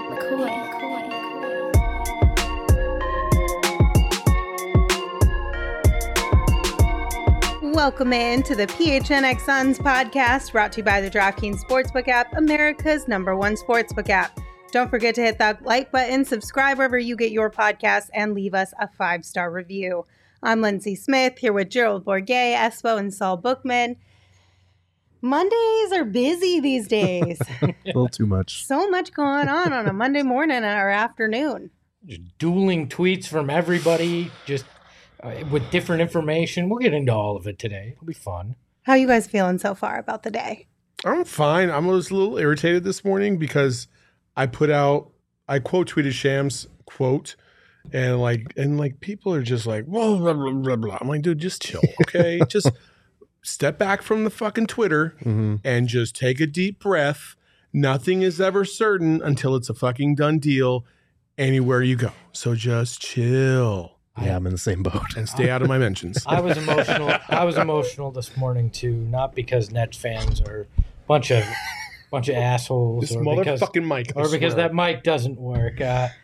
Welcome in to the PHNX Suns podcast, brought to you by the DraftKings Sportsbook app, America's #1 sportsbook app. Don't forget to hit that like button, subscribe wherever you get your podcasts, and leave us a 5-star review. I'm Lindsay Smith, here with Gerald Bourguet, Espo, and Saul Bookman. Mondays are busy these days. A little too much. So much going on a Monday morning or afternoon. Just dueling tweets from everybody, just with different information. We'll get into all of it today. It'll be fun. How are you guys feeling so far about the day? I'm fine. I was a little irritated this morning because I quote tweeted Shams quote, and people are just like, blah, blah, blah, blah, blah. I'm like, dude, just chill, okay? Just step back from the fucking Twitter and just take a deep breath. Nothing is ever certain until it's a fucking done deal anywhere you go. So just chill. Yeah, I'm in the same boat. And stay out of my mentions. I was emotional this morning too, not because Nets fans are a bunch of assholes, This motherfucking mic, or because that mic doesn't work.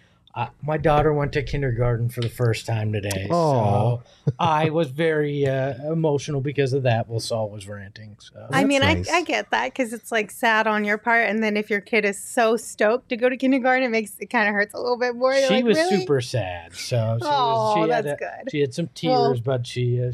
My daughter went to kindergarten for the first time today, so I was very emotional because of that. Well, Saul was ranting. So. I mean, nice. I get that because it's like sad on your part, and then if your kid is so stoked to go to kindergarten, it kind of hurts a little bit more. You're She like, was really? super sad, so that's good. She had some tears, but she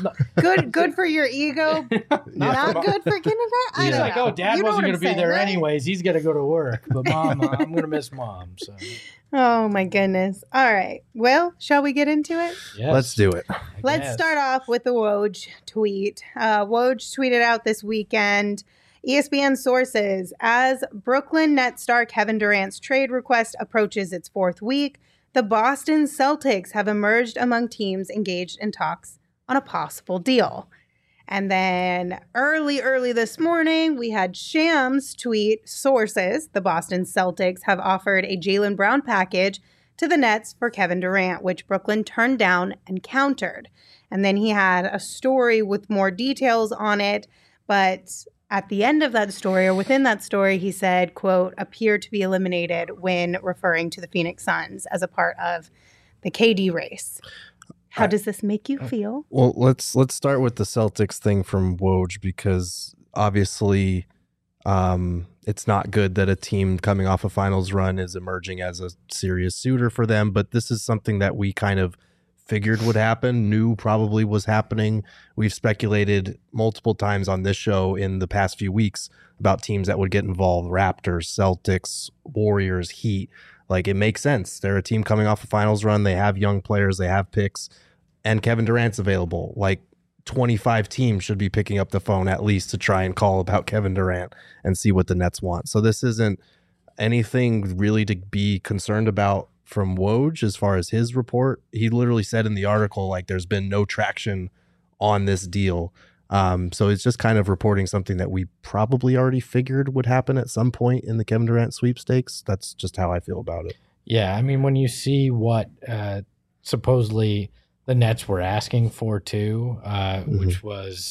Good for your ego, not good for kindergarten. She's like, know. oh, Dad You know wasn't what going to I'm be saying, there right? anyways. He's going to go to work, but Mom, I'm going to miss Mom. So. Oh my goodness. All right. Well, shall we get into it? Yes. Let's do it. Let's start off with the Woj tweet. Woj tweeted out this weekend, ESPN sources, as Brooklyn Nets star Kevin Durant's trade request approaches its 4th week, the Boston Celtics have emerged among teams engaged in talks on a possible deal. And then early this morning, we had Shams tweet, sources, the Boston Celtics have offered a Jaylen Brown package to the Nets for Kevin Durant, which Brooklyn turned down and countered. And then he had a story with more details on it. But at the end of that story, or within that story, he said, quote, appear to be eliminated when referring to the Phoenix Suns as a part of the KD race. How does this make you feel? Well, let's start with the Celtics thing from Woj, because obviously it's not good that a team coming off a finals run is emerging as a serious suitor for them. But this is something that we kind of figured would happen, knew probably was happening. We've speculated multiple times on this show in the past few weeks about teams that would get involved: Raptors, Celtics, Warriors, Heat. Like, it makes sense. They're a team coming off a finals run. They have young players. They have picks. And Kevin Durant's available. Like, 25 teams should be picking up the phone at least to try and call about Kevin Durant and see what the Nets want. So this isn't anything really to be concerned about from Woj as far as his report. He literally said in the article, like, there's been no traction on this deal. So it's just kind of reporting something that we probably already figured would happen at some point in the Kevin Durant sweepstakes. That's just how I feel about it. Yeah, I mean, when you see what supposedly the Nets were asking for too, which was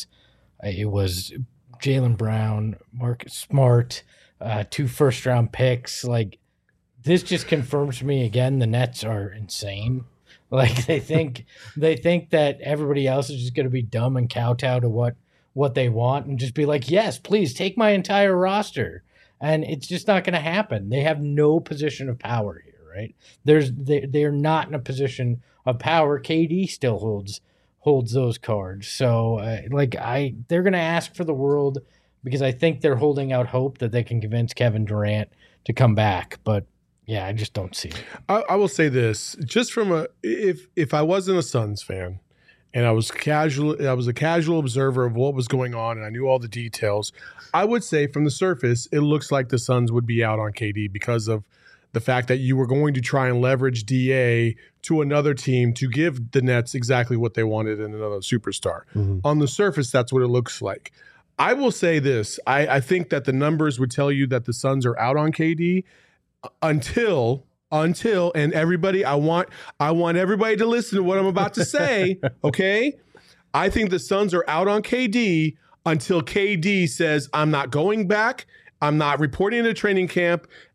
Jaylen Brown, Marcus Smart, 2 first-round picks. Like, this just confirms to me again the Nets are insane. Like, they think that everybody else is just going to be dumb and kowtow to what they want and just be like, yes, please take my entire roster. And it's just not going to happen. They have no position of power here, right? They're not in a position of power. KD still holds those cards. So they're going to ask for the world because I think they're holding out hope that they can convince Kevin Durant to come back. But yeah, I just don't see it. I will say this, just from if I wasn't a Suns fan and I was a casual observer of what was going on and I knew all the details, I would say from the surface, it looks like the Suns would be out on KD because of the fact that you were going to try and leverage DA to another team to give the Nets exactly what they wanted in another superstar. Mm-hmm. On the surface, that's what it looks like. I will say this. I think that the numbers would tell you that the Suns are out on KD until and everybody, I want everybody to listen to what I'm about to say, okay? I think the Suns are out on KD until KD says, I'm not going back, I'm not reporting to training camp,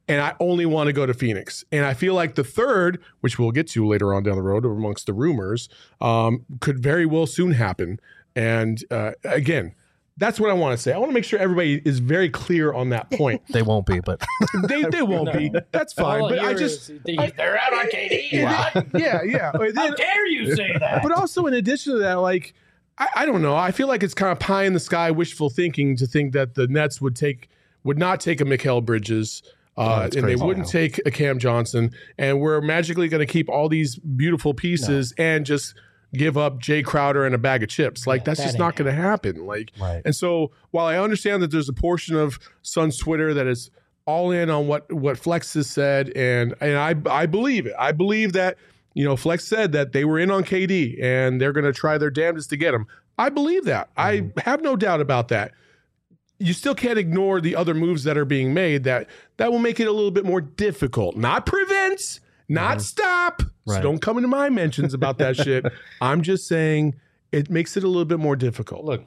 and I only want to go to Phoenix. And I feel like the third, which we'll get to later on down the road amongst the rumors, could very well soon happen. And again, that's what I want to say. I want to make sure everybody is very clear on that point. They won't be, but They won't be. That's fine. All But I here just is they're out on KD. yeah. How dare you say that? But also in addition to that, like I don't know. I feel like it's kind of pie in the sky wishful thinking to think that the Nets would not take a Mikal Bridges. And they wouldn't take a Cam Johnson, and we're magically going to keep all these beautiful pieces and just give up Jay Crowder and a bag of chips. Like that's just not going to happen. Like, and so while I understand that there's a portion of Suns Twitter that is all in on what Flex has said, and I believe it. I believe that Flex said that they were in on KD and they're going to try their damnedest to get him. I believe that. I have no doubt about that. You still can't ignore the other moves that are being made that will make it a little bit more difficult. Not prevents, not stop. So don't come into my mentions about that shit. I'm just saying it makes it a little bit more difficult. Look,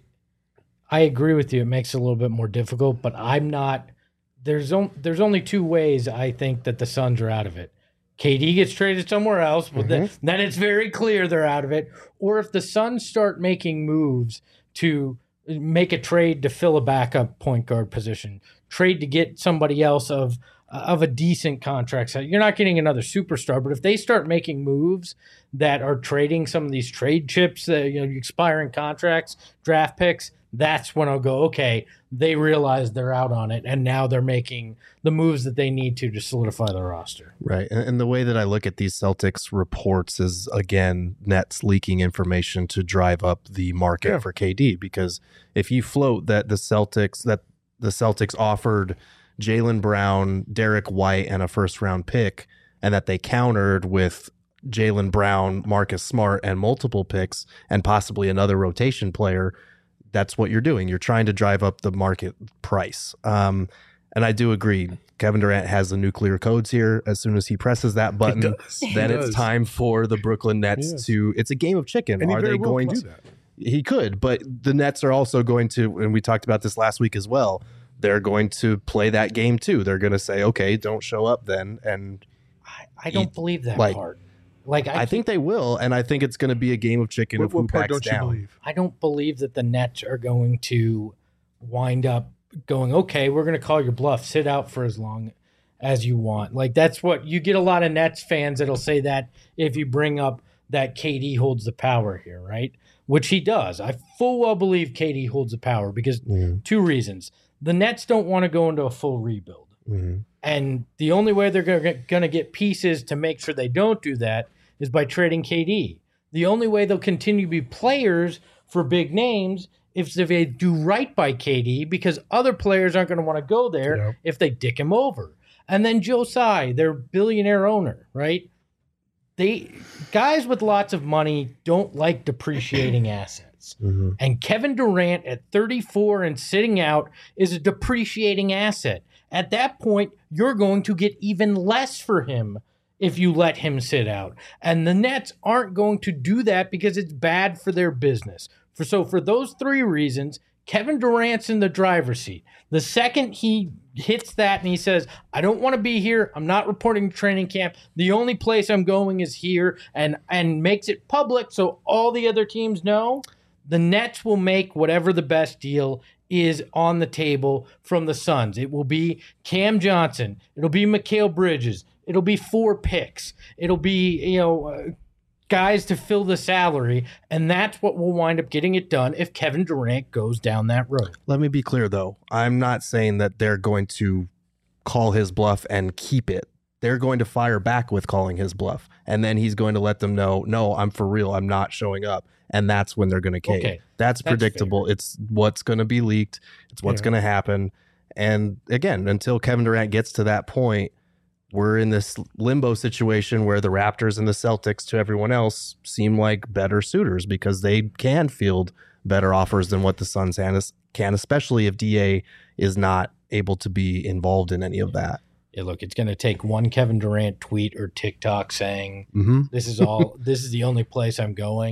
I agree with you. It makes it a little bit more difficult, but I'm not. There's only two ways I think that the Suns are out of it. KD gets traded somewhere else, but then it's very clear they're out of it. Or if the Suns start making moves to make a trade to fill a backup point guard position, trade to get somebody else of a decent contract. So you're not getting another superstar, but if they start making moves that are trading some of these trade chips, expiring contracts, draft picks, that's when I'll go, okay, they realize they're out on it, and now they're making the moves that they need to solidify their roster. Right. And the way that I look at these Celtics reports is, again, Nets leaking information to drive up the market for KD. Because if you float that the Celtics offered Jaylen Brown, Derek White, and a first-round pick, and that they countered with Jaylen Brown, Marcus Smart, and multiple picks, and possibly another rotation player, that's what you're doing. You're trying to drive up the market price. And I do agree. Kevin Durant has the nuclear codes here. As soon as he presses that button, then it's time for the Brooklyn Nets to. It's a game of chicken. And are they going to? That. He could, but the Nets are also going to, and we talked about this last week as well. They're going to play that game too. They're going to say, okay, don't show up then. And I don't believe that part. Like I think they will, and I think it's going to be a game of chicken of who backs down. I don't believe that the Nets are going to wind up going, okay, we're going to call your bluff. Sit out for as long as you want. Like that's what you get. A lot of Nets fans that'll say that if you bring up that KD holds the power here, right? Which he does. I full well believe KD holds the power because two reasons. The Nets don't want to go into a full rebuild. And the only way they're going to get pieces to make sure they don't do that is by trading KD. The only way they'll continue to be players for big names is if they do right by KD, because other players aren't going to want to go there if they dick him over. And then Joe Tsai, their billionaire owner, right? Guys with lots of money don't like depreciating assets. And Kevin Durant at 34 and sitting out is a depreciating asset. At that point, you're going to get even less for him if you let him sit out. And the Nets aren't going to do that because it's bad for their business. For those three reasons, Kevin Durant's in the driver's seat. The second he hits that and he says, I don't want to be here, I'm not reporting to training camp, the only place I'm going is here, and makes it public so all the other teams know, the Nets will make whatever the best deal is on the table from the Suns. It will be Cam Johnson. It'll be Mikal Bridges. It'll be 4 picks. It'll be, guys to fill the salary. And that's what will wind up getting it done if Kevin Durant goes down that road. Let me be clear, though. I'm not saying that they're going to call his bluff and keep it. They're going to fire back with calling his bluff. And then he's going to let them know, no, I'm for real. I'm not showing up. And that's when they're going to cave. Okay, that's predictable. Fair. It's what's going to be leaked. It's what's going to happen. And again, until Kevin Durant gets to that point, we're in this limbo situation where the Raptors and the Celtics to everyone else seem like better suitors because they can field better offers than what the Suns can, especially if DA is not able to be involved in any of that. Yeah, look, it's going to take one Kevin Durant tweet or TikTok saying, this is the only place I'm going.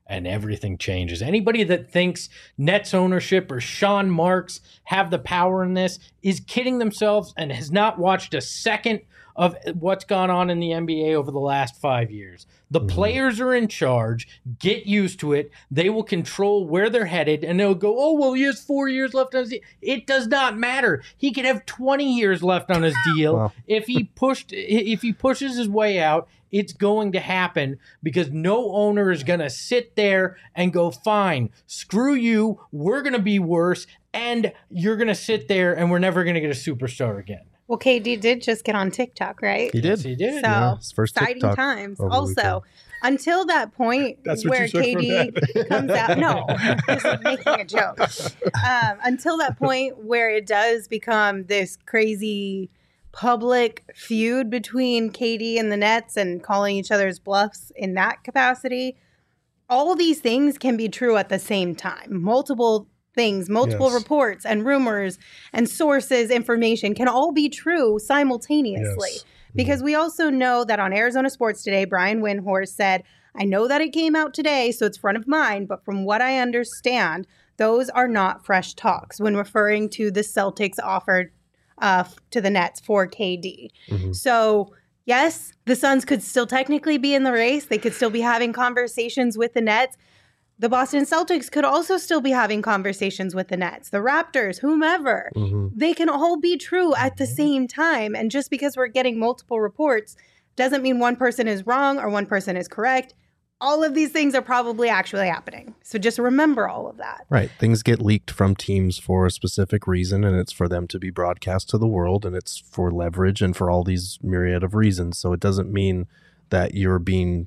and everything changes. Anybody that thinks Nets ownership or Sean Marks have the power in this is kidding themselves and has not watched a second of what's gone on in the NBA over the last 5 years. The players are in charge. Get used to it. They will control where they're headed, and they'll go, oh, well, he has 4 years left on his deal. It does not matter. He could have 20 years left on his deal. Wow. If he pushes his way out, it's going to happen because no owner is going to sit there and go, fine, screw you, we're going to be worse, and you're going to sit there and we're never going to get a superstar again. Well, KD did just get on TikTok, right? He did. Yes, he did. So Yeah, his first exciting TikTok times. over the Also, weekend. until that point That's what where you took from KD comes out, no, just making a joke. Until that point where it does become this crazy public feud between KD and the Nets and calling each other's bluffs in that capacity, all these things can be true at the same time. Multiple things, multiple Yes. reports and rumors and sources, information can all be true simultaneously. Yes. Because we also know that on Arizona Sports Today, Brian Windhorst said, I know that it came out today, so it's front of mind, but from what I understand, those are not fresh talks when referring to the Celtics offered to the Nets for KD. So, yes, the Suns could still technically be in the race. They could still be having conversations with the Nets. The Boston Celtics could also still be having conversations with the Nets, the Raptors, whomever. They can all be true at the same time. And just because we're getting multiple reports doesn't mean one person is wrong or one person is correct. All of these things are probably actually happening. So just remember all of that. Right. Things get leaked from teams for a specific reason, and it's for them to be broadcast to the world, and it's for leverage and for all these myriad of reasons. So it doesn't mean that you're being,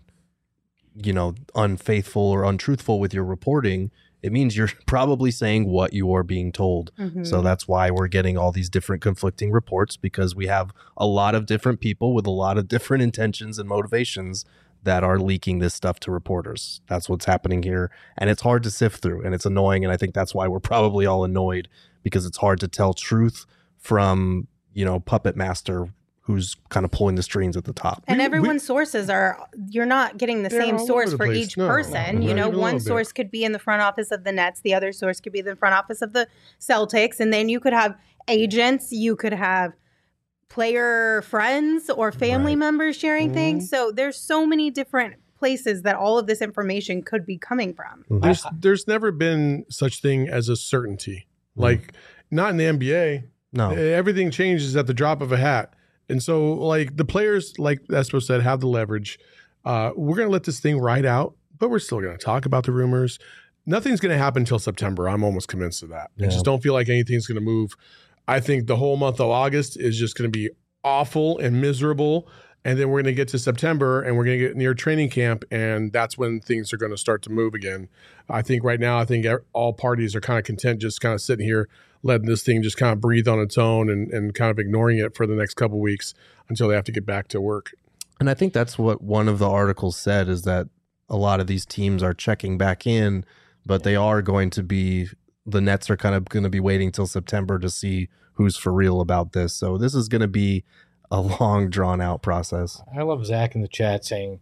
unfaithful or untruthful with your reporting. It means you're probably saying what you are being told. So that's why we're getting all these different conflicting reports, because we have a lot of different people with a lot of different intentions and motivations that are leaking this stuff to reporters. That's what's happening here. And it's hard to sift through, and it's annoying. And I think that's why we're probably all annoyed, because it's hard to tell truth from, puppet master who's kind of pulling the strings at the top. And everyone's sources you're not getting the They're same all source over the for place. each No, person. not even a One little bit. source could be in the front office of the Nets. The other source could be in the front office of the Celtics. And then you could have agents. You could have player friends or family Right. members sharing things. So there's so many different places that all of this information could be coming from. There's never been such thing as a certainty. Like, not in the NBA. No. Everything changes at the drop of a hat. And so, like, the players, like Espo said, have the leverage. We're going to let this thing ride out, but we're still going to talk about the rumors. Nothing's going to happen until September. I'm almost convinced of that. I Yeah. just don't feel like anything's going to move. I think the whole month of August is just going to be awful and miserable. And then we're going to get to September and we're going to get near training camp. And that's when things are going to start to move again. I think right now, all parties are kind of content just kind of sitting here, letting this thing just kind of breathe on its own and kind of ignoring it for the next couple of weeks until they have to get back to work. And I think that's what one of the articles said, is that a lot of these teams are checking back in, but they are going to be, the Nets are kind of going to be waiting till September to see who's for real about this. So this is going to be a long, drawn out process. I love Zach in the chat saying,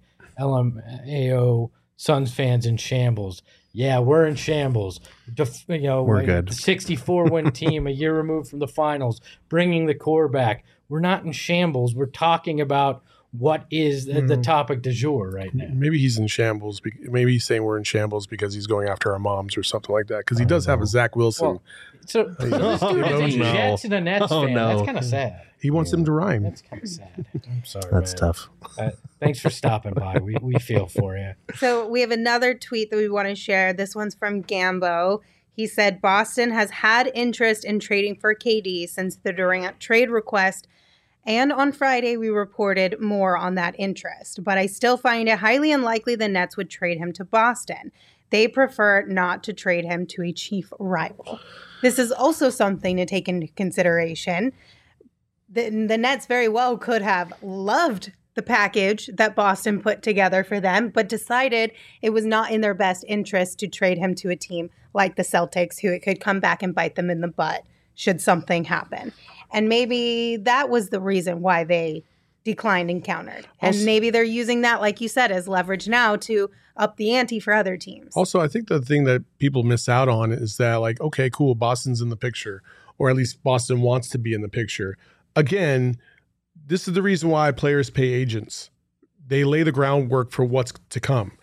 LMAO Suns fans in shambles. Yeah, we're in shambles. We're good. 64-win team, a year removed from the finals, bringing the core back. We're not in shambles. We're talking about what is the topic du jour right now. Maybe he's in shambles. Maybe he's saying we're in shambles because he's going after our moms or something like that. Because he does have a Zach Wilson. Well, so this dude is a no. Jets and a Nets Oh, fan. no. That's kind of sad. He wants them to rhyme. That's kind of sad. I'm sorry. That's man. tough. Thanks for stopping by. We feel for you. So we have another tweet that we want to share. This one's from Gambo. He said, Boston has had interest in trading for KD since the Durant trade request. And on Friday, we reported more on that interest. But I still find it highly unlikely the Nets would trade him to Boston. They prefer not to trade him to a chief rival. This is also something to take into consideration. The Nets very well could have loved the package that Boston put together for them, but decided it was not in their best interest to trade him to a team like the Celtics, who it could come back and bite them in the butt should something happen. And maybe that was the reason why they declined and countered. And Also- maybe they're using that, like you said, as leverage now to up the ante for other teams. Also, I think the thing that people miss out on is that, like, okay, cool, Boston's in the picture, or at least Boston wants to be in the picture. Again, this is the reason why players pay agents. They lay the groundwork for what's to come.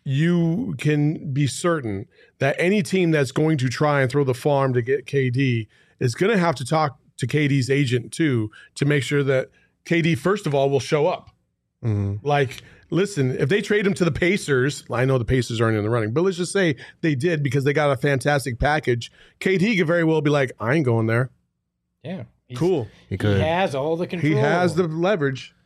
You can be certain that any team that's going to try and throw the farm to get KD is going to have to talk to KD's agent too, to make sure that KD, first of all, will show up. Mm-hmm. Like, listen, if they trade him to the Pacers, I know the Pacers aren't in the running, but let's just say they did because they got a fantastic package. KD could very well be like, I ain't going there. Yeah. Cool. He could. He has all the control. He has the leverage.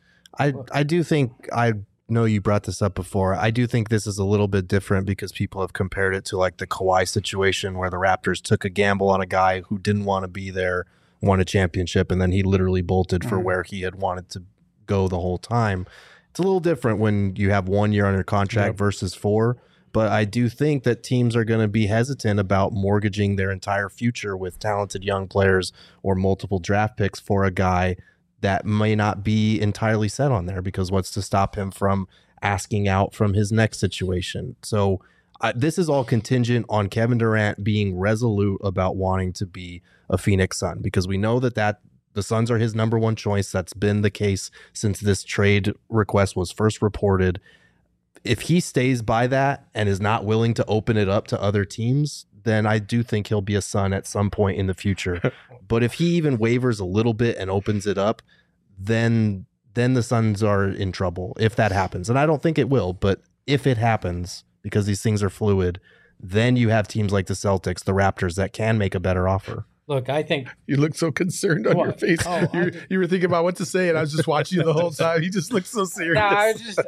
I do think, I know you brought this up before, I do think this is a little bit different because people have compared it to like the Kawhi situation where the Raptors took a gamble on a guy who didn't want to be there, won a championship, and then he literally bolted for where he had wanted to go the whole time. It's a little different when you have 1 year under contract versus 4. But I do think that teams are going to be hesitant about mortgaging their entire future with talented young players or multiple draft picks for a guy that may not be entirely set on there, because what's to stop him from asking out from his next situation? So this is all contingent on Kevin Durant being resolute about wanting to be a Phoenix Sun, because we know that the Suns are his number one choice. That's been the case since this trade request was first reported. If he stays by that and is not willing to open it up to other teams, then I do think he'll be a Sun at some point in the future. But if he even wavers a little bit and opens it up, then the Suns are in trouble if that happens. And I don't think it will, but if it happens, because these things are fluid, then you have teams like the Celtics, the Raptors, that can make a better offer. Look, I think You look so concerned on your What? face. Oh, You were thinking about what to say, and I was just watching you the whole time. You just looked so serious. no, I just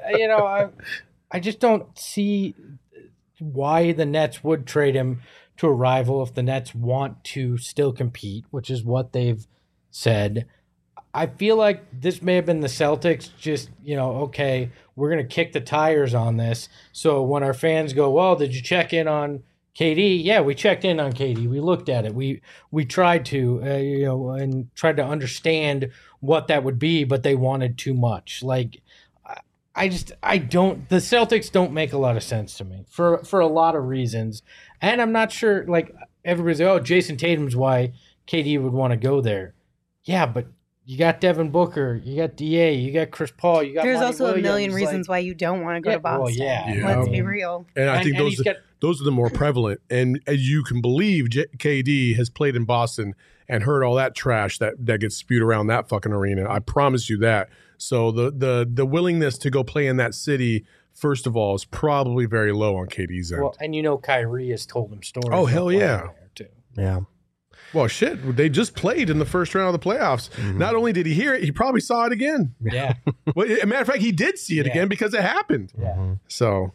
I just don't see why the Nets would trade him to a rival if the Nets want to still compete, which is what they've said. I feel like this may have been the Celtics just, okay, we're going to kick the tires on this. So when our fans go, well, did you check in on KD? Yeah, we checked in on KD. We looked at it. We tried to, and tried to understand what that would be, but they wanted too much. Like, the Celtics don't make a lot of sense to me for a lot of reasons. And I'm not sure, like, everybody's like, oh, Jason Tatum's why KD would want to go there. Yeah, but you got Devin Booker, you got DA, you got Chris Paul, you got There's Monty also Williams. a million reasons why you don't want to go to well, Boston. yeah. Let's Yeah. be real. And I think he's got- those are the more prevalent. And as you can believe, KD has played in Boston and heard all that trash that gets spewed around that fucking arena. I promise you that. So the willingness to go play in that city, first of all, is probably very low on KD's end. Well, and Kyrie has told him stories. Oh, about hell playing yeah. there, too. Yeah. Well, shit, they just played in the first round of the playoffs. Not only did he hear it, he probably saw it again. Yeah. Well, as a matter of fact, he did see it Yeah. again because it happened. Yeah. So,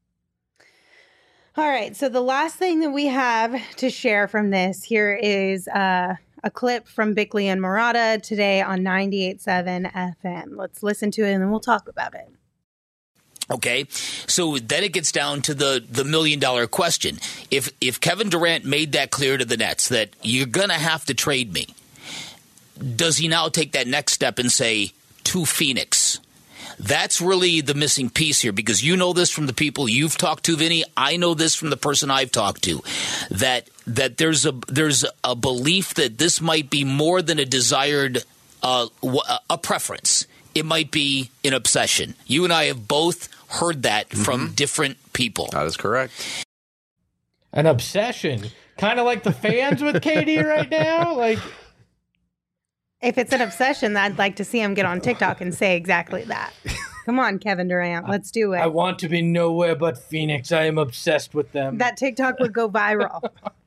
All right. So the last thing that we have to share from this here is a clip from Bickley and Murata today on 98.7 FM. Let's listen to it and then we'll talk about it. Okay, so then it gets down to the $1 million question. If Kevin Durant made that clear to the Nets that you're going to have to trade me, does he now take that next step and say, to Phoenix? That's really the missing piece here, because you know this from the people you've talked to, Vinny. I know this from the person I've talked to, that there's a belief that this might be more than a desired a preference. It might be an obsession. You and I have both heard that from different people. That is correct. An obsession. Kind of like the fans with KD right now. Like, If it's an obsession, I'd like to see him get on TikTok and say exactly that. Come on, Kevin Durant. Let's do it. I want to be nowhere but Phoenix. I am obsessed with them. That TikTok would go viral.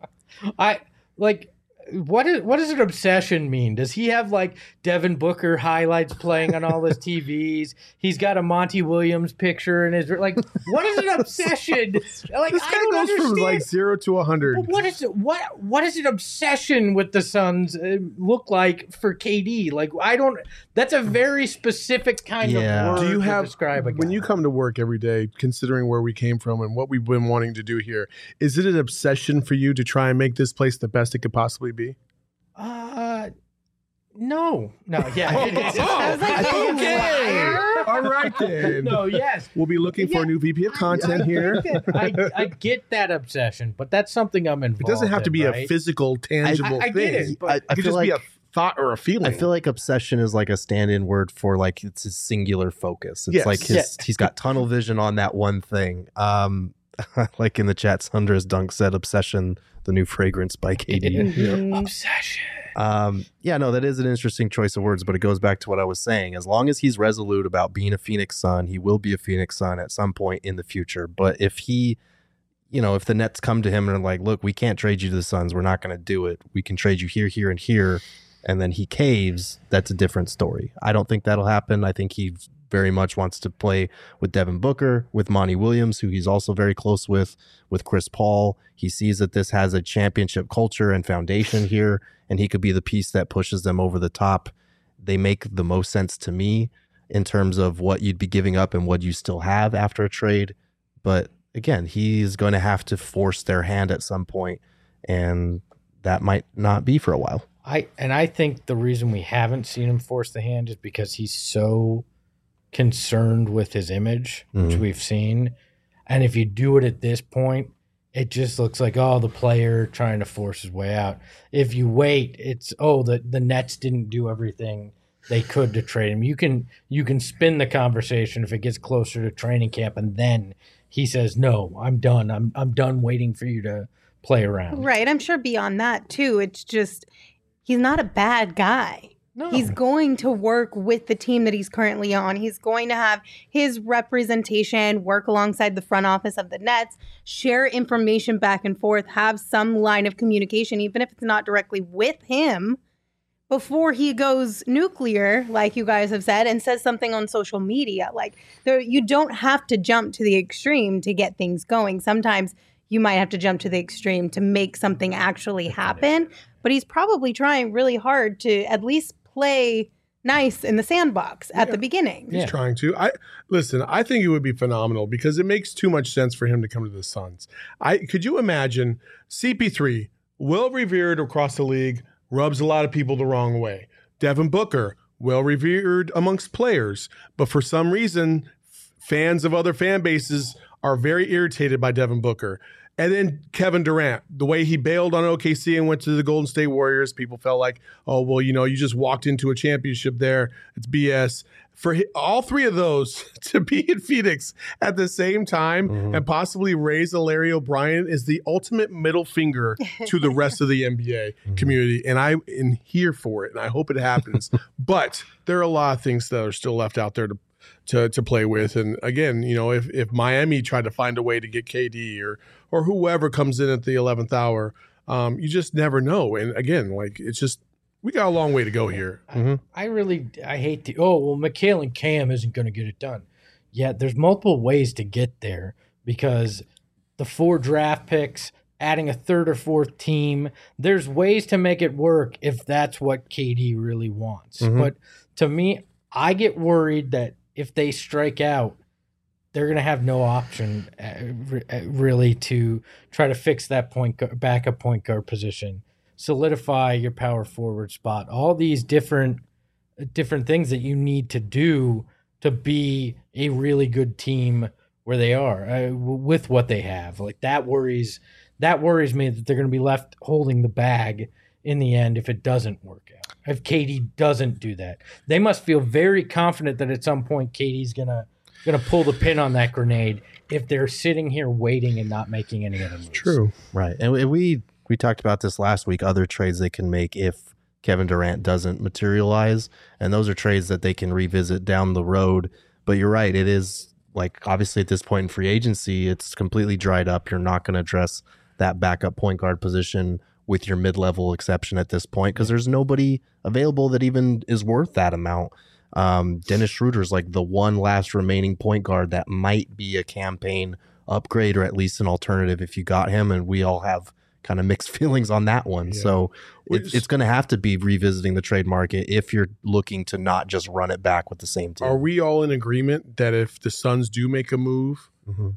What does an obsession mean? Does he have like Devin Booker highlights playing on all his TVs? He's got a Monty Williams picture in his what is an obsession? Like, this I guy don't goes understand. from like 0 to 100. But what is it? What does an obsession with the Suns look like for KD? Like, I don't. That's a very specific kind Yeah. of word Do you to have, describe a guy. when you come to work every day, considering where we came from and what we've been wanting to do here, is it an obsession for you to try and make this place the best it could possibly be? No, yeah. I was like, you liar. All right then. No, yes. We'll be looking for a new VP of content here. I get that obsession, but that's something I'm involved in. It doesn't have to be right? a physical, tangible I thing. get it, but It could just be a thought or a feeling. I feel like obsession is like a stand-in word for like it's his singular focus. It's Yes. like he's got tunnel vision on that one thing. Like in the chat, Sandra's Dunk said, "Obsession, the new fragrance by KD." Obsession. Yeah, no, that is an interesting choice of words, but it goes back to what I was saying. As long as he's resolute about being a Phoenix Sun, he will be a Phoenix Sun at some point in the future. But if he, if the Nets come to him and are like, look, we can't trade you to the Suns, we're not going to do it. We can trade you here, here, and here. And then he caves, that's a different story. I don't think that'll happen. I think he very much wants to play with Devin Booker, with Monty Williams, who he's also very close with Chris Paul. He sees that this has a championship culture and foundation here, and he could be the piece that pushes them over the top. They make the most sense to me in terms of what you'd be giving up and what you still have after a trade. But again, he's going to have to force their hand at some point, and that might not be for a while. I think the reason we haven't seen him force the hand is because he's so concerned with his image, which we've seen. And if you do it at this point, it just looks like, the player trying to force his way out. If you wait, it's, the Nets didn't do everything they could to trade him. You can spin the conversation if it gets closer to training camp, and then he says, no, I'm done. I'm done waiting for you to play around. Right. I'm sure beyond that, too, it's just he's not a bad guy. No. He's going to work with the team that he's currently on. He's going to have his representation, work alongside the front office of the Nets, share information back and forth, have some line of communication, even if it's not directly with him, before he goes nuclear, like you guys have said, and says something on social media. Like, you don't have to jump to the extreme to get things going. Sometimes you might have to jump to the extreme to make something actually happen. But he's probably trying really hard to at least play nice in the sandbox at the beginning. He's trying to. I think it would be phenomenal because it makes too much sense for him to come to the Suns. Could you imagine CP3, well revered across the league, rubs a lot of people the wrong way. Devin Booker, well revered amongst players, but for some reason, fans of other fan bases are very irritated by Devin Booker. And then Kevin Durant, the way he bailed on OKC and went to the Golden State Warriors, people felt like, you just walked into a championship there. It's BS. For all three of those to be in Phoenix at the same time and possibly raise a Larry O'Brien is the ultimate middle finger to the rest of the NBA community. And I am here for it, and I hope it happens. But there are a lot of things that are still left out there to play with. And again, if Miami tried to find a way to get KD or whoever comes in at the 11th hour, you just never know. And again, it's just, we got a long way to go here. I hate Mikhail and Cam isn't going to get it done. Yeah, there's multiple ways to get there because the 4 draft picks, adding a third or fourth team, there's ways to make it work if that's what KD really wants. But to me, I get worried that if they strike out, they're going to have no option really to try to fix that backup point guard position, solidify your power forward spot, all these different things that you need to do to be a really good team where they are with what they have. Like that worries me that they're going to be left holding the bag in the end if it doesn't work out. If KD doesn't do that, they must feel very confident that at some point KD's gonna pull the pin on that grenade if they're sitting here waiting and not making any other moves. True. Right. And we talked about this last week, other trades they can make if Kevin Durant doesn't materialize. And those are trades that they can revisit down the road. But you're right. It is obviously at this point in free agency, it's completely dried up. You're not going to address that backup point guard position with your mid-level exception at this point because there's nobody available that even is worth that amount. Dennis Schroeder's the one last remaining point guard that might be a campaign upgrade or at least an alternative if you got him, and we all have kind of mixed feelings on that one. Yeah. So it's going to have to be revisiting the trade market if you're looking to not just run it back with the same team. Are we all in agreement that if the Suns do make a move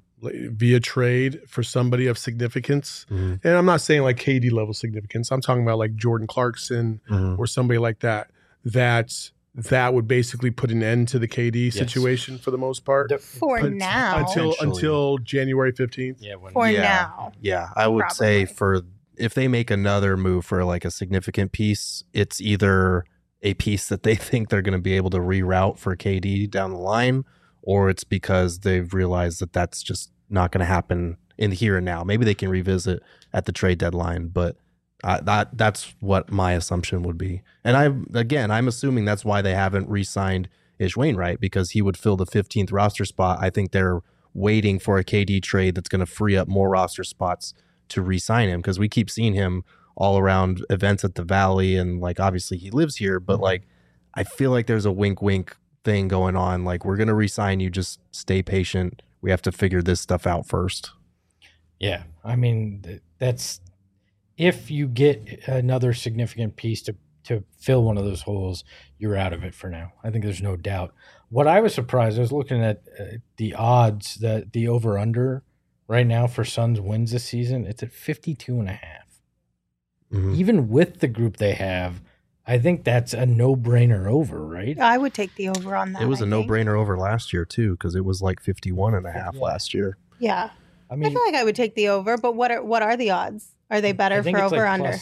via trade for somebody of significance, and I'm not saying KD level significance, I'm talking about Jordan Clarkson or somebody like that that would basically put an end to the KD situation for the most part For now. until January 15th. Yeah, Now. Yeah, I would say Probably. if they make another move for like a significant piece, it's either a piece that they think they're going to be able to reroute for KD down the line, or it's because they've realized that that's just not going to happen in the here and now. Maybe they can revisit at the trade deadline, but that's what my assumption would be. And I'm assuming that's why they haven't re-signed Ish Wainwright, because he would fill the 15th roster spot. I think they're waiting for a KD trade that's going to free up more roster spots to re-sign him, because we keep seeing him all around events at the Valley, and like obviously he lives here, but like I feel like there's a wink thing going on, like we're going to re-sign you, just stay patient, we have to figure this stuff out first. Yeah, I mean, that's if you get another significant piece to fill one of those holes, you're out of it for now. I think there's no doubt. What I was surprised, I was looking at the odds, that the over-under right now for Suns wins this season, it's at 52.5. Mm-hmm. Even with the group they have, I think that's a no-brainer over, right? I would take the over on that. It was a no-brainer over last year too, because it was like 51.5 last year. Yeah. I mean, I feel like I would take the over, but what are the odds? Are they better I think for it's over like under? plus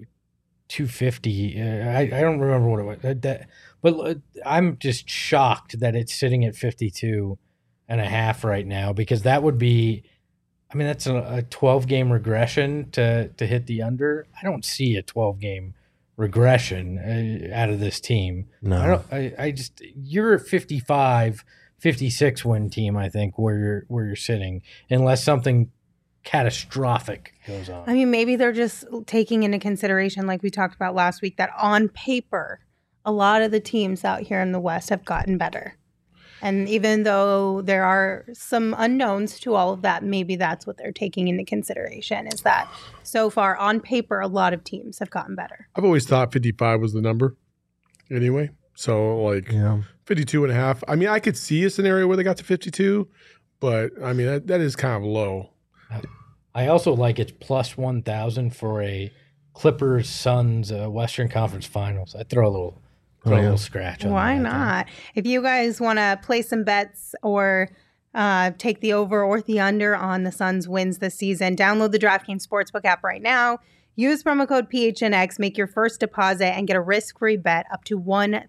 250. I don't remember what it was. But I'm just shocked that it's sitting at 52.5 right now, because that would be, I mean, that's a 12-game regression to hit the under. I don't see a 12-game regression out of this team. No. I just, you're a 55, 56 win team, I think, where you're sitting, unless something catastrophic goes on. I mean, maybe they're just taking into consideration, like we talked about last week, that on paper, a lot of the teams out here in the West have gotten better. And even though there are some unknowns to all of that, maybe that's what they're taking into consideration, is that so far on paper, a lot of teams have gotten better. I've always thought 55 was the number anyway. So like 52.5. I mean, I could see a scenario where they got to 52, but I mean, that is kind of low. I also like it's plus 1,000 for a Clippers Suns Western Conference Finals. I throw a little scratch on Why that. not? If you guys want to play some bets or take the over or the under on the Suns wins this season, download the DraftKings Sportsbook app right now. Use promo code PHNX, make your first deposit, and get a risk-free bet up to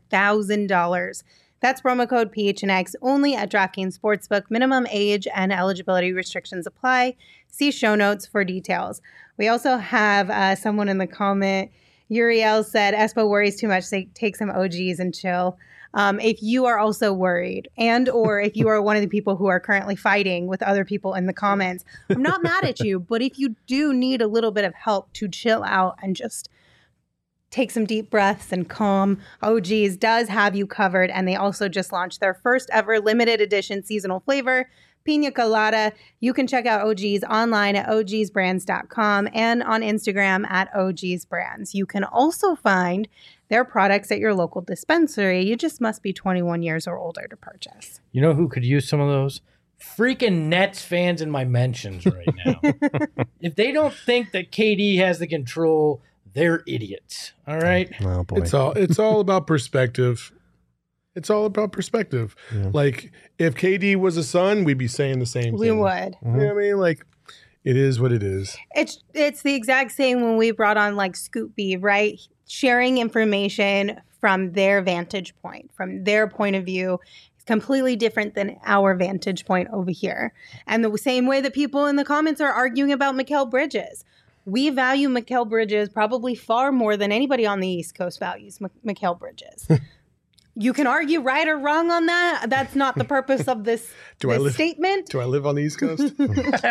$1,000. That's promo code PHNX only at DraftKings Sportsbook. Minimum age and eligibility restrictions apply. See show notes for details. We also have someone in the comment, Uriel said, Espo worries too much. Take some OGs and chill. If you are also worried, and or if you are one of the people who are currently fighting with other people in the comments, I'm not mad at you, but if you do need a little bit of help to chill out and just take some deep breaths and calm, OGs does have you covered. And they also just launched their first ever limited edition seasonal flavor, Pina Colada. You can check out OGs online at ogsbrands.com and on Instagram at ogsbrands. You can also find their products at your local dispensary. You just must be 21 years or older to purchase. You know who could use some of those? Freaking Nets fans in my mentions right now. If they don't think that KD has the control, they're idiots. All right. Oh boy. It's all about perspective. It's all about perspective. Yeah. Like if KD was a Sun, we'd be saying the same We thing. would. You know what I mean? Like it is what it is. It's the exact same when we brought on like Scoop B, right? Sharing information from their vantage point, from their point of view. It's completely different than our vantage point over here. And the same way that people in the comments are arguing about Mikal Bridges. We value Mikal Bridges probably far more than anybody on the East Coast values Mikal Bridges. You can argue right or wrong on that. That's not the purpose of this statement. Do I live on the East Coast? Oh,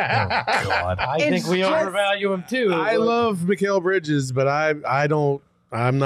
God. I think we overvalue him too. I love Mikal Bridges, but I'm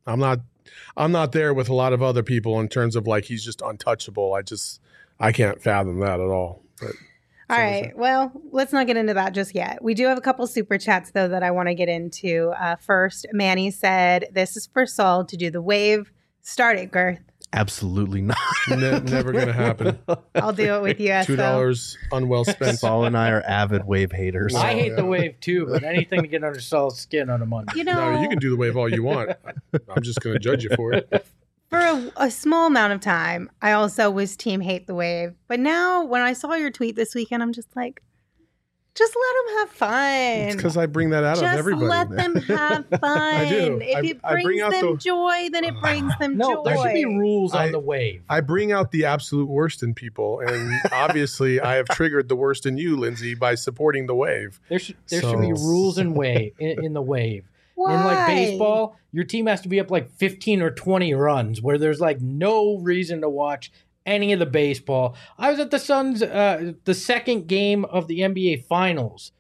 not there with a lot of other people in terms of like he's just untouchable. I can't fathom that at all. But all right. Well, let's not get into that just yet. We do have a couple super chats, though, that I want to get into. First, Manny said, this is for Saul to do the wave. Start it, Girth. Absolutely not. never going to happen. I'll do it with you, Espo. $2 unwell spent. Saul and I are avid wave haters. I hate the wave too, but anything to get under Saul's skin on a Monday. You know, No, you can do the wave all you want. I'm just going to judge you for it. For a small amount of time, I also was team hate the wave. But now, when I saw your tweet this weekend, I'm just like, just let them have fun. It's because I bring that out of Just everybody. let them have fun. I do. If it I bring brings out them the- joy, then it brings them No, joy. there should be rules I- on the wave. I bring out the absolute worst in people, and obviously, I have triggered the worst in you, Lindsay, by supporting the wave. There should be So- rules in the wave. Why? In like baseball, your team has to be up like 15 or 20 runs where there's like no reason to watch any of the baseball. I was at the Suns, the second game of the NBA Finals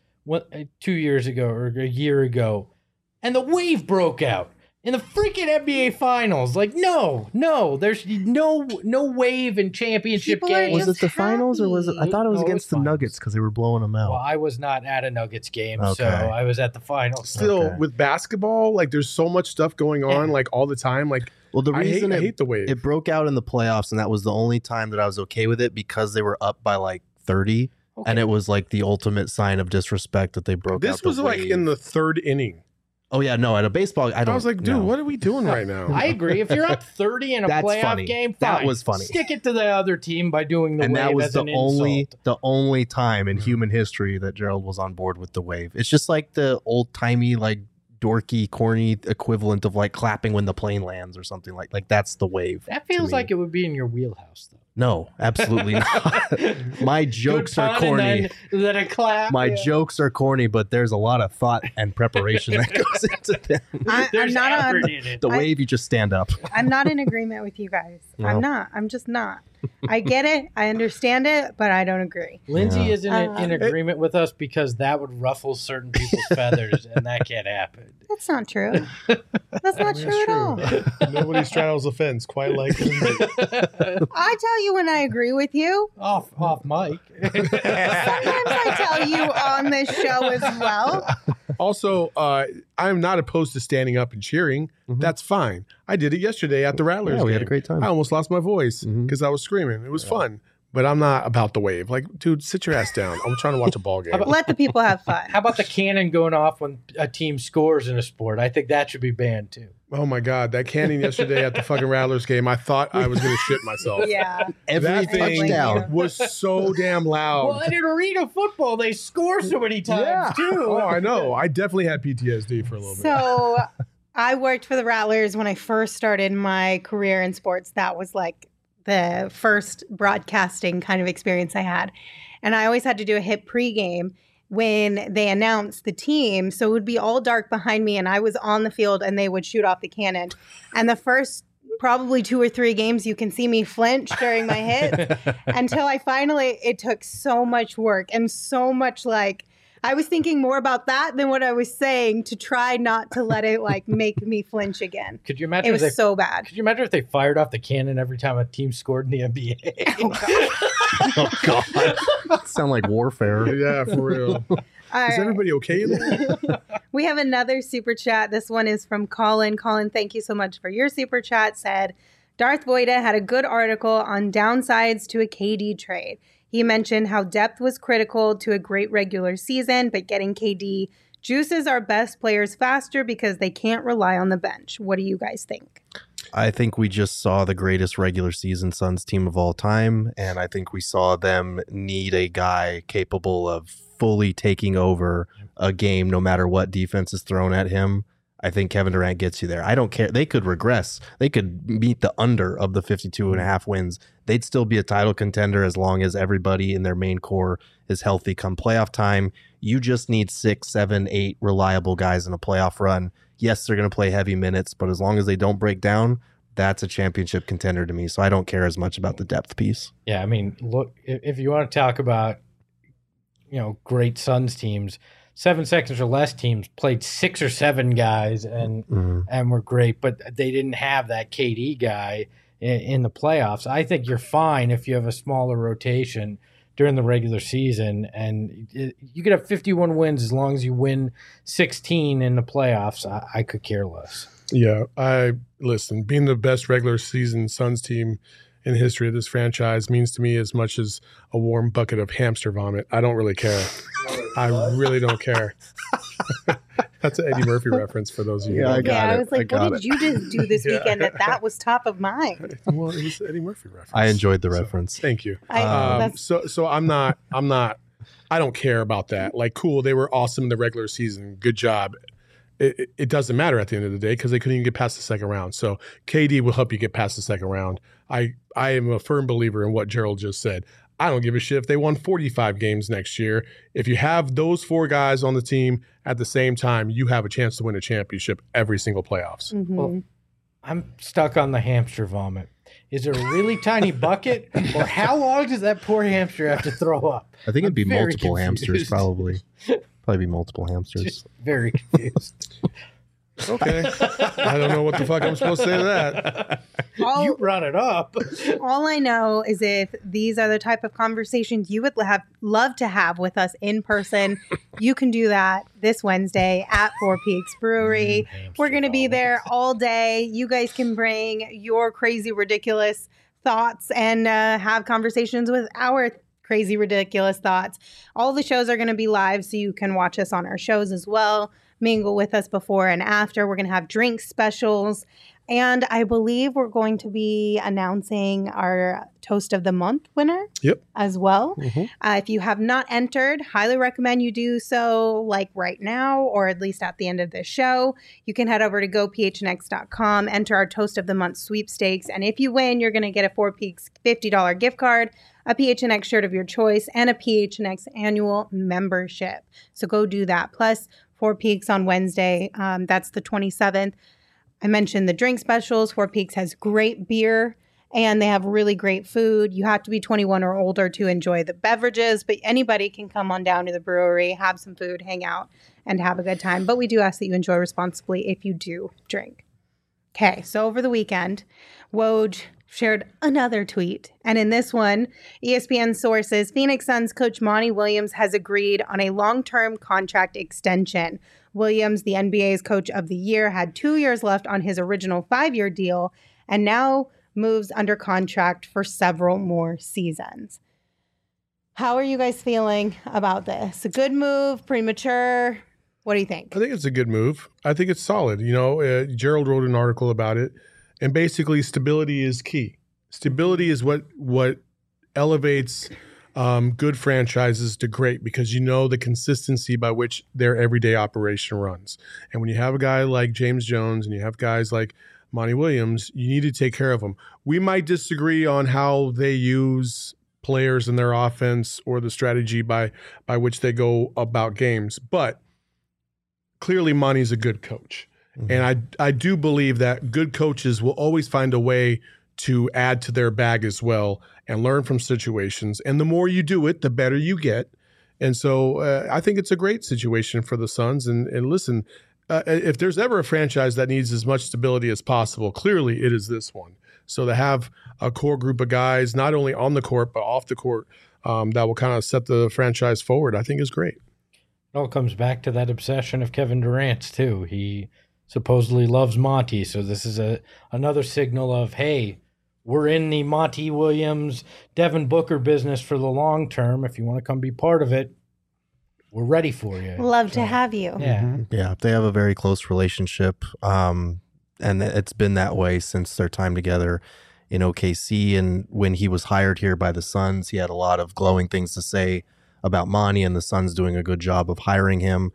2 years ago or a year ago, and the wave broke out in the freaking NBA Finals. Like, no, there's no wave in championship People are games. Was just it the finals or was it? I thought it was No, it against was the finals. Nuggets because they were blowing them out. Well, I was not at a Nuggets game, so Okay. I was at the finals. Still, Okay. with basketball, like there's so much stuff going on, Yeah. like all the time. Like Well, the I reason hate the wave. it broke out in the playoffs, and that was the only time that I was okay with it because they were up by like 30, Okay. and it was like the ultimate sign of disrespect that they broke out. This was like in the third inning. Oh yeah, no, at a baseball, I I don't. was like, dude, no. what are we doing right now? I agree. If you're up 30 in a That's playoff funny. game, That fine. was funny. Stick it to the other team by doing the And wave that was as the an only insult. time in human history that Gerald was on board with the wave. It's just like the old timey, like dorky, corny equivalent of like clapping when the plane lands or something like that's the wave. That to feels me. like it would be in your wheelhouse, though. No, absolutely not. My jokes Good are pun corny. and then a clap. My yeah. jokes are corny, but there's a lot of thought and preparation that goes into them. I'm There's not on. effort in it. The wave, you just stand up. I'm not in agreement with you guys. No. I'm not. I'm just not. I get it. I understand it, but I don't agree. Lindsay Yeah. isn't in agreement with us because that would ruffle certain people's feathers, and that can't happen. That's not true. That's not true at all. Nobody straddles the fence quite like Lindsay. I tell you when I agree with you. off mic. Sometimes I tell you on this show as well. Also, I'm not opposed to standing up and cheering. Mhm. That's fine. I did it yesterday at the Rattlers Yeah, we had game. a great time. I almost lost my voice Mhm. because I was screaming. It was fun, but I'm not about the wave. Like, dude, sit your ass down. I'm trying to watch a ball game. Let the people have fun. How about the cannon going off when a team scores in a sport? I think that should be banned too. Oh my god, that cannon yesterday at the fucking Rattlers game. I thought I was going to shit myself. Yeah. Every That thing touchdown. was so damn loud. Well, in arena football, they score so many times too. Oh, I know. I definitely had PTSD for a little bit. So I worked for the Rattlers when I first started my career in sports. That was like the first broadcasting kind of experience I had. And I always had to do a hit pregame when they announced the team. So it would be all dark behind me and I was on the field and they would shoot off the cannon. And the first probably 2 or 3 games, you can see me flinch during my hits until I finally, it took so much work and so much like, I was thinking more about that than what I was saying to try not to let it like make me flinch again. Could you It imagine? was If they, so bad. could you imagine if they fired off the cannon every time a team scored in the NBA? Oh God, that sound like warfare. Yeah, for real. All Is right. everybody okay in there? We have another super chat. This one is from Colin. Colin, thank you so much for your super chat. Said Darth Voida had a good article on downsides to a KD trade. He mentioned how depth was critical to a great regular season, but getting KD juices our best players faster because they can't rely on the bench. What do you guys think? I think we just saw the greatest regular season Suns team of all time, and I think we saw them need a guy capable of fully taking over a game no matter what defense is thrown at him. I think Kevin Durant gets you there. I don't care. They could regress. They could meet the under of the 52.5 wins. They'd still be a title contender as long as everybody in their main core is healthy come playoff time. You just need 6, 7, 8 reliable guys in a playoff run. Yes, they're going to play heavy minutes, but as long as they don't break down, that's a championship contender to me. So I don't care as much about the depth piece. Yeah, I mean, look, if you want to talk about, great Suns teams, 7 seconds or less teams played 6 or 7 guys and were great, but they didn't have that KD guy in the playoffs. I think you're fine if you have a smaller rotation during the regular season, and you could have 51 wins as long as you win 16 in the playoffs. I could care less. Yeah, listen, being the best regular season Suns team in the history of this franchise means to me as much as a warm bucket of hamster vomit. I don't really care. I really don't care. That's an Eddie Murphy reference for those of you. Yeah, who I don't got I it. was like, I what got did you just do this weekend that was top of mind? Well, it was Eddie Murphy reference. I enjoyed the So, reference. thank you. That's- So I'm not. I don't care about that. Like, cool, they were awesome in the regular season. Good job. It doesn't matter at the end of the day because they couldn't even get past the second round. So KD will help you get past the second round. I am a firm believer in what Gerald just said. I don't give a shit if they won 45 games next year. If you have those 4 guys on the team at the same time, you have a chance to win a championship every single playoffs. Mhm. Well, I'm stuck on the hamster vomit. Is it a really tiny bucket, or how long does that poor hamster have to throw up? I think it'd be I'm very multiple hamsters, confused. probably. Probably be multiple hamsters. Just very confused. Okay. I don't know what the fuck I'm supposed to say to that. You brought it up. All I know is if these are the type of conversations you would love to have with us in person, you can do that this Wednesday at Four Peaks Brewery. We're going to be there all day. You guys can bring your crazy, ridiculous thoughts and have conversations with our crazy, ridiculous thoughts. All the shows are going to be live, so you can watch us on our shows as well, mingle with us before and after. We're going to have drink specials. And I believe we're going to be announcing our Toast of the Month winner as well. If you have not entered, highly recommend you do so like right now or at least at the end of this show. You can head over to gophnx.com, enter our Toast of the Month sweepstakes. And if you win, you're going to get a Four Peaks $50 gift card, a PHNX shirt of your choice, and a PHNX annual membership. So go do that. Plus, Four Peaks on Wednesday. That's the 27th. I mentioned the drink specials. Four Peaks has great beer and they have really great food. You have to be 21 or older to enjoy the beverages, but anybody can come on down to the brewery, have some food, hang out, and have a good time. But we do ask that you enjoy responsibly if you do drink. Okay, so over the weekend, Woj shared another tweet. And in this one, ESPN sources, Phoenix Suns coach Monty Williams has agreed on a long-term contract extension. Williams, the NBA's coach of the year, had 2 years left on his original 5-year deal and now moves under contract for several more seasons. How are you guys feeling about this? A good move, premature? What do you think? I think it's a good move. I think it's solid. You know, Gerald wrote an article about it, and basically stability is key. Stability is what elevates good franchises to great, because you know the consistency by which their everyday operation runs. And when you have a guy like James Jones and you have guys like Monty Williams, you need to take care of them. We might disagree on how they use players in their offense or the strategy by which they go about games, but clearly Monty's a good coach. Mm-hmm. And I do believe that good coaches will always find a way to add to their bag as well and learn from situations. And the more you do it, the better you get. And so I think it's a great situation for the Suns. And listen, if there's ever a franchise that needs as much stability as possible, clearly it is this one. So to have a core group of guys, not only on the court, but off the court, that will kind of set the franchise forward, I think is great. It all comes back to that obsession of Kevin Durant's too. He supposedly loves Monty. So this is another signal of, hey, we're in the Monty Williams, Devin Booker business for the long term. If you want to come be part of it, we're ready for you. Love to have you. Yeah. Yeah, they have a very close relationship, and it's been that way since their time together in OKC. And when he was hired here by the Suns, he had a lot of glowing things to say about Monty, and the Suns doing a good job of hiring him.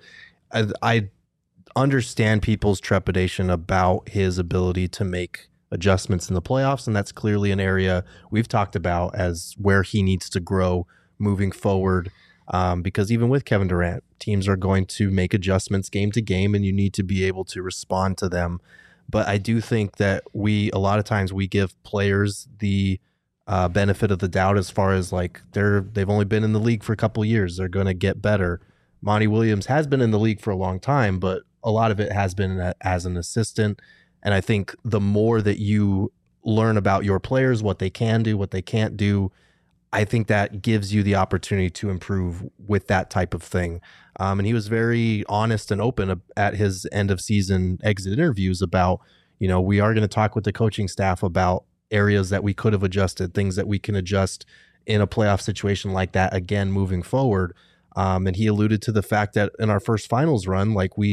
I understand people's trepidation about his ability to make adjustments in the playoffs, and that's clearly an area we've talked about as where he needs to grow moving forward. Because even with Kevin Durant, teams are going to make adjustments game to game, and you need to be able to respond to them. But I do think that a lot of times we give players the benefit of the doubt as far as like they've only been in the league for a couple of years. They're going to get better. Monty Williams has been in the league for a long time, but a lot of it has been as an assistant. And I think the more that you learn about your players, what they can do, what they can't do, I think that gives you the opportunity to improve with that type of thing. And he was very honest and open at his end of season exit interviews about, we are going to talk with the coaching staff about areas that we could have adjusted, things that we can adjust in a playoff situation like that again moving forward. And he alluded to the fact that in our first finals run, like we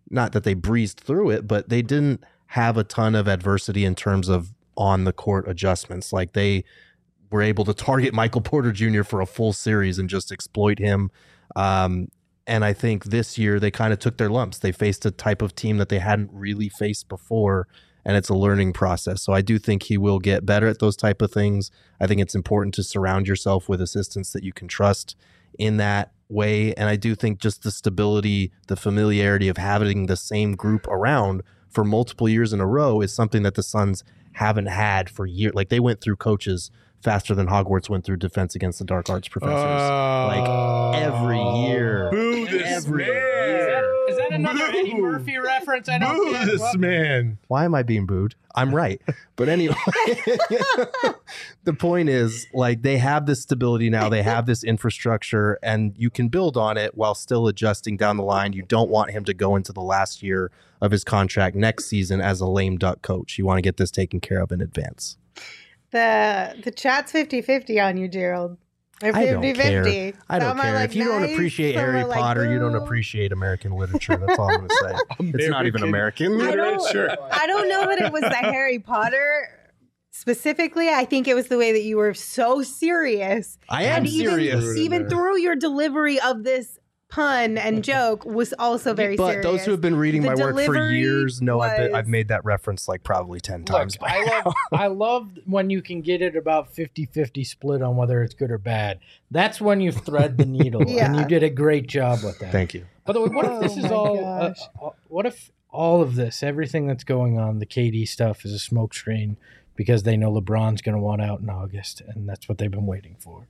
not that they breezed through it, but they didn't have a ton of adversity in terms of on the court adjustments. Like they were able to target Michael Porter Jr. for a full series and just exploit him. And I think this year they kind of took their lumps. They faced a type of team that they hadn't really faced before, and it's a learning process. So I do think he will get better at those type of things. I think it's important to surround yourself with assistants that you can trust in that way. And I do think just the stability, the familiarity of having the same group around for multiple years in a row is something that the Suns haven't had for years. Like they went through coaches faster than Hogwarts went through Defense Against the Dark Arts professors. Like every year. Boo this every man. year. Is that another Eddie Murphy reference? I don't Boo get. this What? man. Why am I being booed? I'm right. But anyway, the point is, like, they have this stability now. They have this infrastructure, and you can build on it while still adjusting down the line. You don't want him to go into the last year of his contract next season as a lame duck coach. You want to get this taken care of in advance. The chat's 50-50 on you, Gerald. Or 50-50. I don't care. I don't Some are care. like If you don't nice, appreciate some Harry are like, Potter, you don't boo. appreciate American literature. That's all I'm going to say. It's not even American. I don't know that it was the Harry Potter specifically. I think it was the way that you were so serious. I am And serious. Even through your delivery of this pun and joke was also very But serious. those who have been reading The my work for delivery years know was- I've made that reference like probably 10 times. Look, I love when you can get it about 50-50 split on whether it's good or bad. That's when you thread the needle, and Yeah. you did a great job with that. Thank you. By the way, what if this Oh is my all? gosh. What if all of this, everything that's going on, the KD stuff, is a smokescreen because they know LeBron's going to want out in August, and that's what they've been waiting for.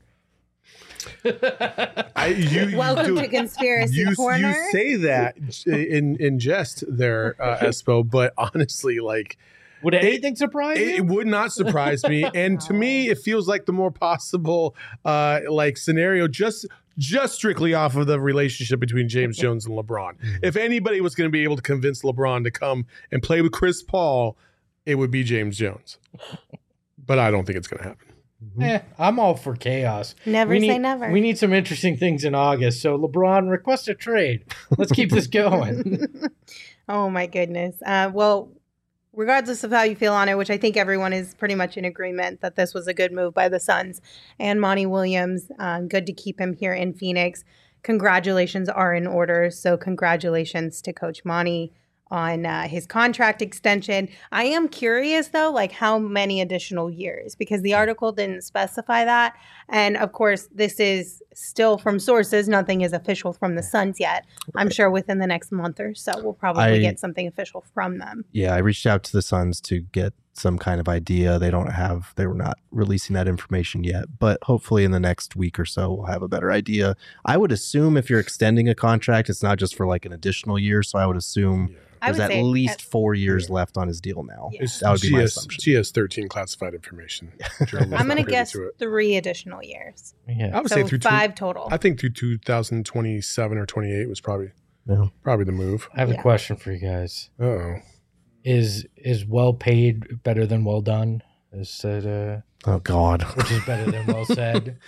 Welcome to Conspiracy Corner. You say that in jest there, Espo, but honestly, like, Would anything surprise you? it would not surprise me. And to me, it feels like the more possible like scenario, just strictly off of the relationship between James Jones and LeBron. If anybody was going to be able to convince LeBron to come and play with Chris Paul, it would be James Jones. But I don't think it's going to happen. I'm all for chaos. Never We say need- never. We need some interesting things in August. So LeBron, request a trade. Let's keep this going. Oh my goodness. Well, regardless of how you feel on it, which I think everyone is pretty much in agreement that this was a good move by the Suns and Monty Williams. Good to keep him here in Phoenix. Congratulations are in order. So congratulations to Coach Monty on his contract extension. I am curious though, like how many additional years, because the article didn't specify that. And of course, this is still from sources. Nothing is official from the Suns yet. I'm sure within the next month or so, we'll probably get something official from them. Yeah, I reached out to the Suns to get some kind of idea. They were not releasing that information yet, but hopefully in the next week or so, we'll have a better idea. I would assume if you're extending a contract, it's not just for like an additional year. So I would assume I there's would at say least 4 years left on his deal now. Yeah. That would be my assumption. She has 13 classified information. Gerald was I'm not going to privy guess to it. 3 additional years. Yeah. I would So say through 5 total. I think through 2027 or 28 was probably Yeah. the move. I have Yeah. a question for you guys. Uh-oh. Is well paid better than well done? Is that Oh, God. which is better than well said?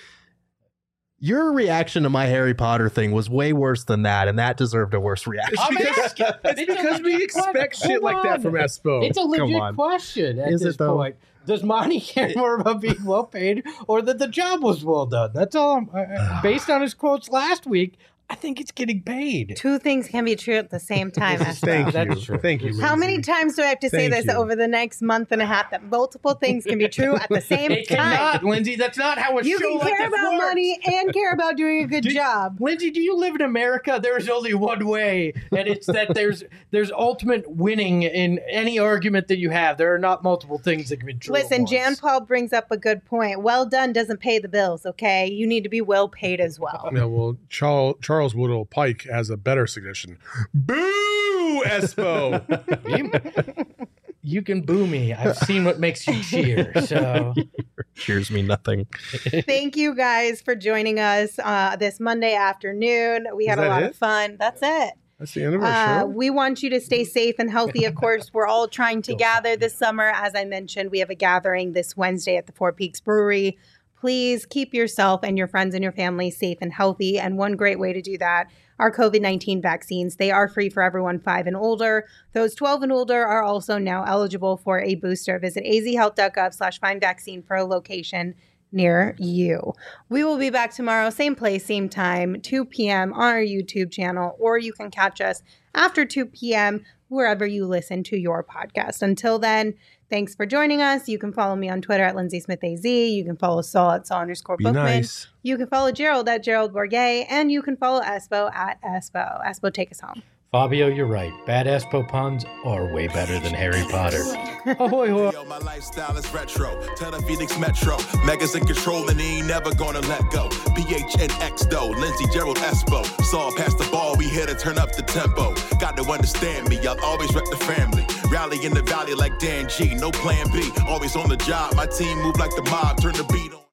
Your reaction to my Harry Potter thing was way worse than that, and that deserved a worse reaction. I'm asking. It's because we expect shit like that from Espo. It's a legit on. question at Is this it, though? point. Does Monty care more about being well paid or that the job was well done? That's all. Based on his quotes last week, I think it's getting paid. 2 things can be true at the same time. Espo. Thank That's you. true. Thank you. How many Lindsay. times do I have to say Thank this you. over the next month and a half that multiple things can be true at the same It time? cannot, Lindsay. That's not how a You show can like care this about works. money and care about doing a good job. Lindsay, do you live in America? There is only one way, and it's that there's ultimate winning in any argument that you have. There are not multiple things that can be true. at Listen, once. Jan Paul brings up a good point. Well done doesn't pay the bills, okay? You need to be well paid as well. Yeah, well, Charles Woodall Pike has a better suggestion. Boo, Espo. You can boo me. I've seen what makes you cheer. So Cheers me nothing. Thank you guys for joining us this Monday afternoon. We had Is a that lot it? of fun. That's it. That's the end of our show. We want you to stay safe and healthy. Of course, we're all trying to gather this summer. As I mentioned, we have a gathering this Wednesday at the Four Peaks Brewery. Please keep yourself and your friends and your family safe and healthy. And one great way to do that our COVID-19 vaccines. They are free for everyone 5 and older. Those 12 and older are also now eligible for a booster. Visit azhealth.gov/find-vaccine for a location near you. We will be back tomorrow, same place, same time, 2 p.m. on our YouTube channel, or you can catch us after 2 p.m. wherever you listen to your podcast. Until then, thanks for joining us. You can follow me on Twitter at @LindsaySmithAZ. You can follow Saul at Saul_Bookman. Nice. You can follow Gerald at Gerald Bourget, and you can follow Espo at Espo. Espo, take us home. Fabio, you're right. Bad Espo puns are way better than Harry Potter. Ahoy, hoy. Yo, my lifestyle is retro. Tell the Phoenix Metro. Megas in control and he ain't never gonna let go. PHNX though, Lindsay, Gerald, Espo. Saw past the ball, we here to turn up the tempo. Got to understand me, I'll always rep the family. Rally in the valley like Dan G, no plan B. Always on the job, my team move like the mob, turn the beat on.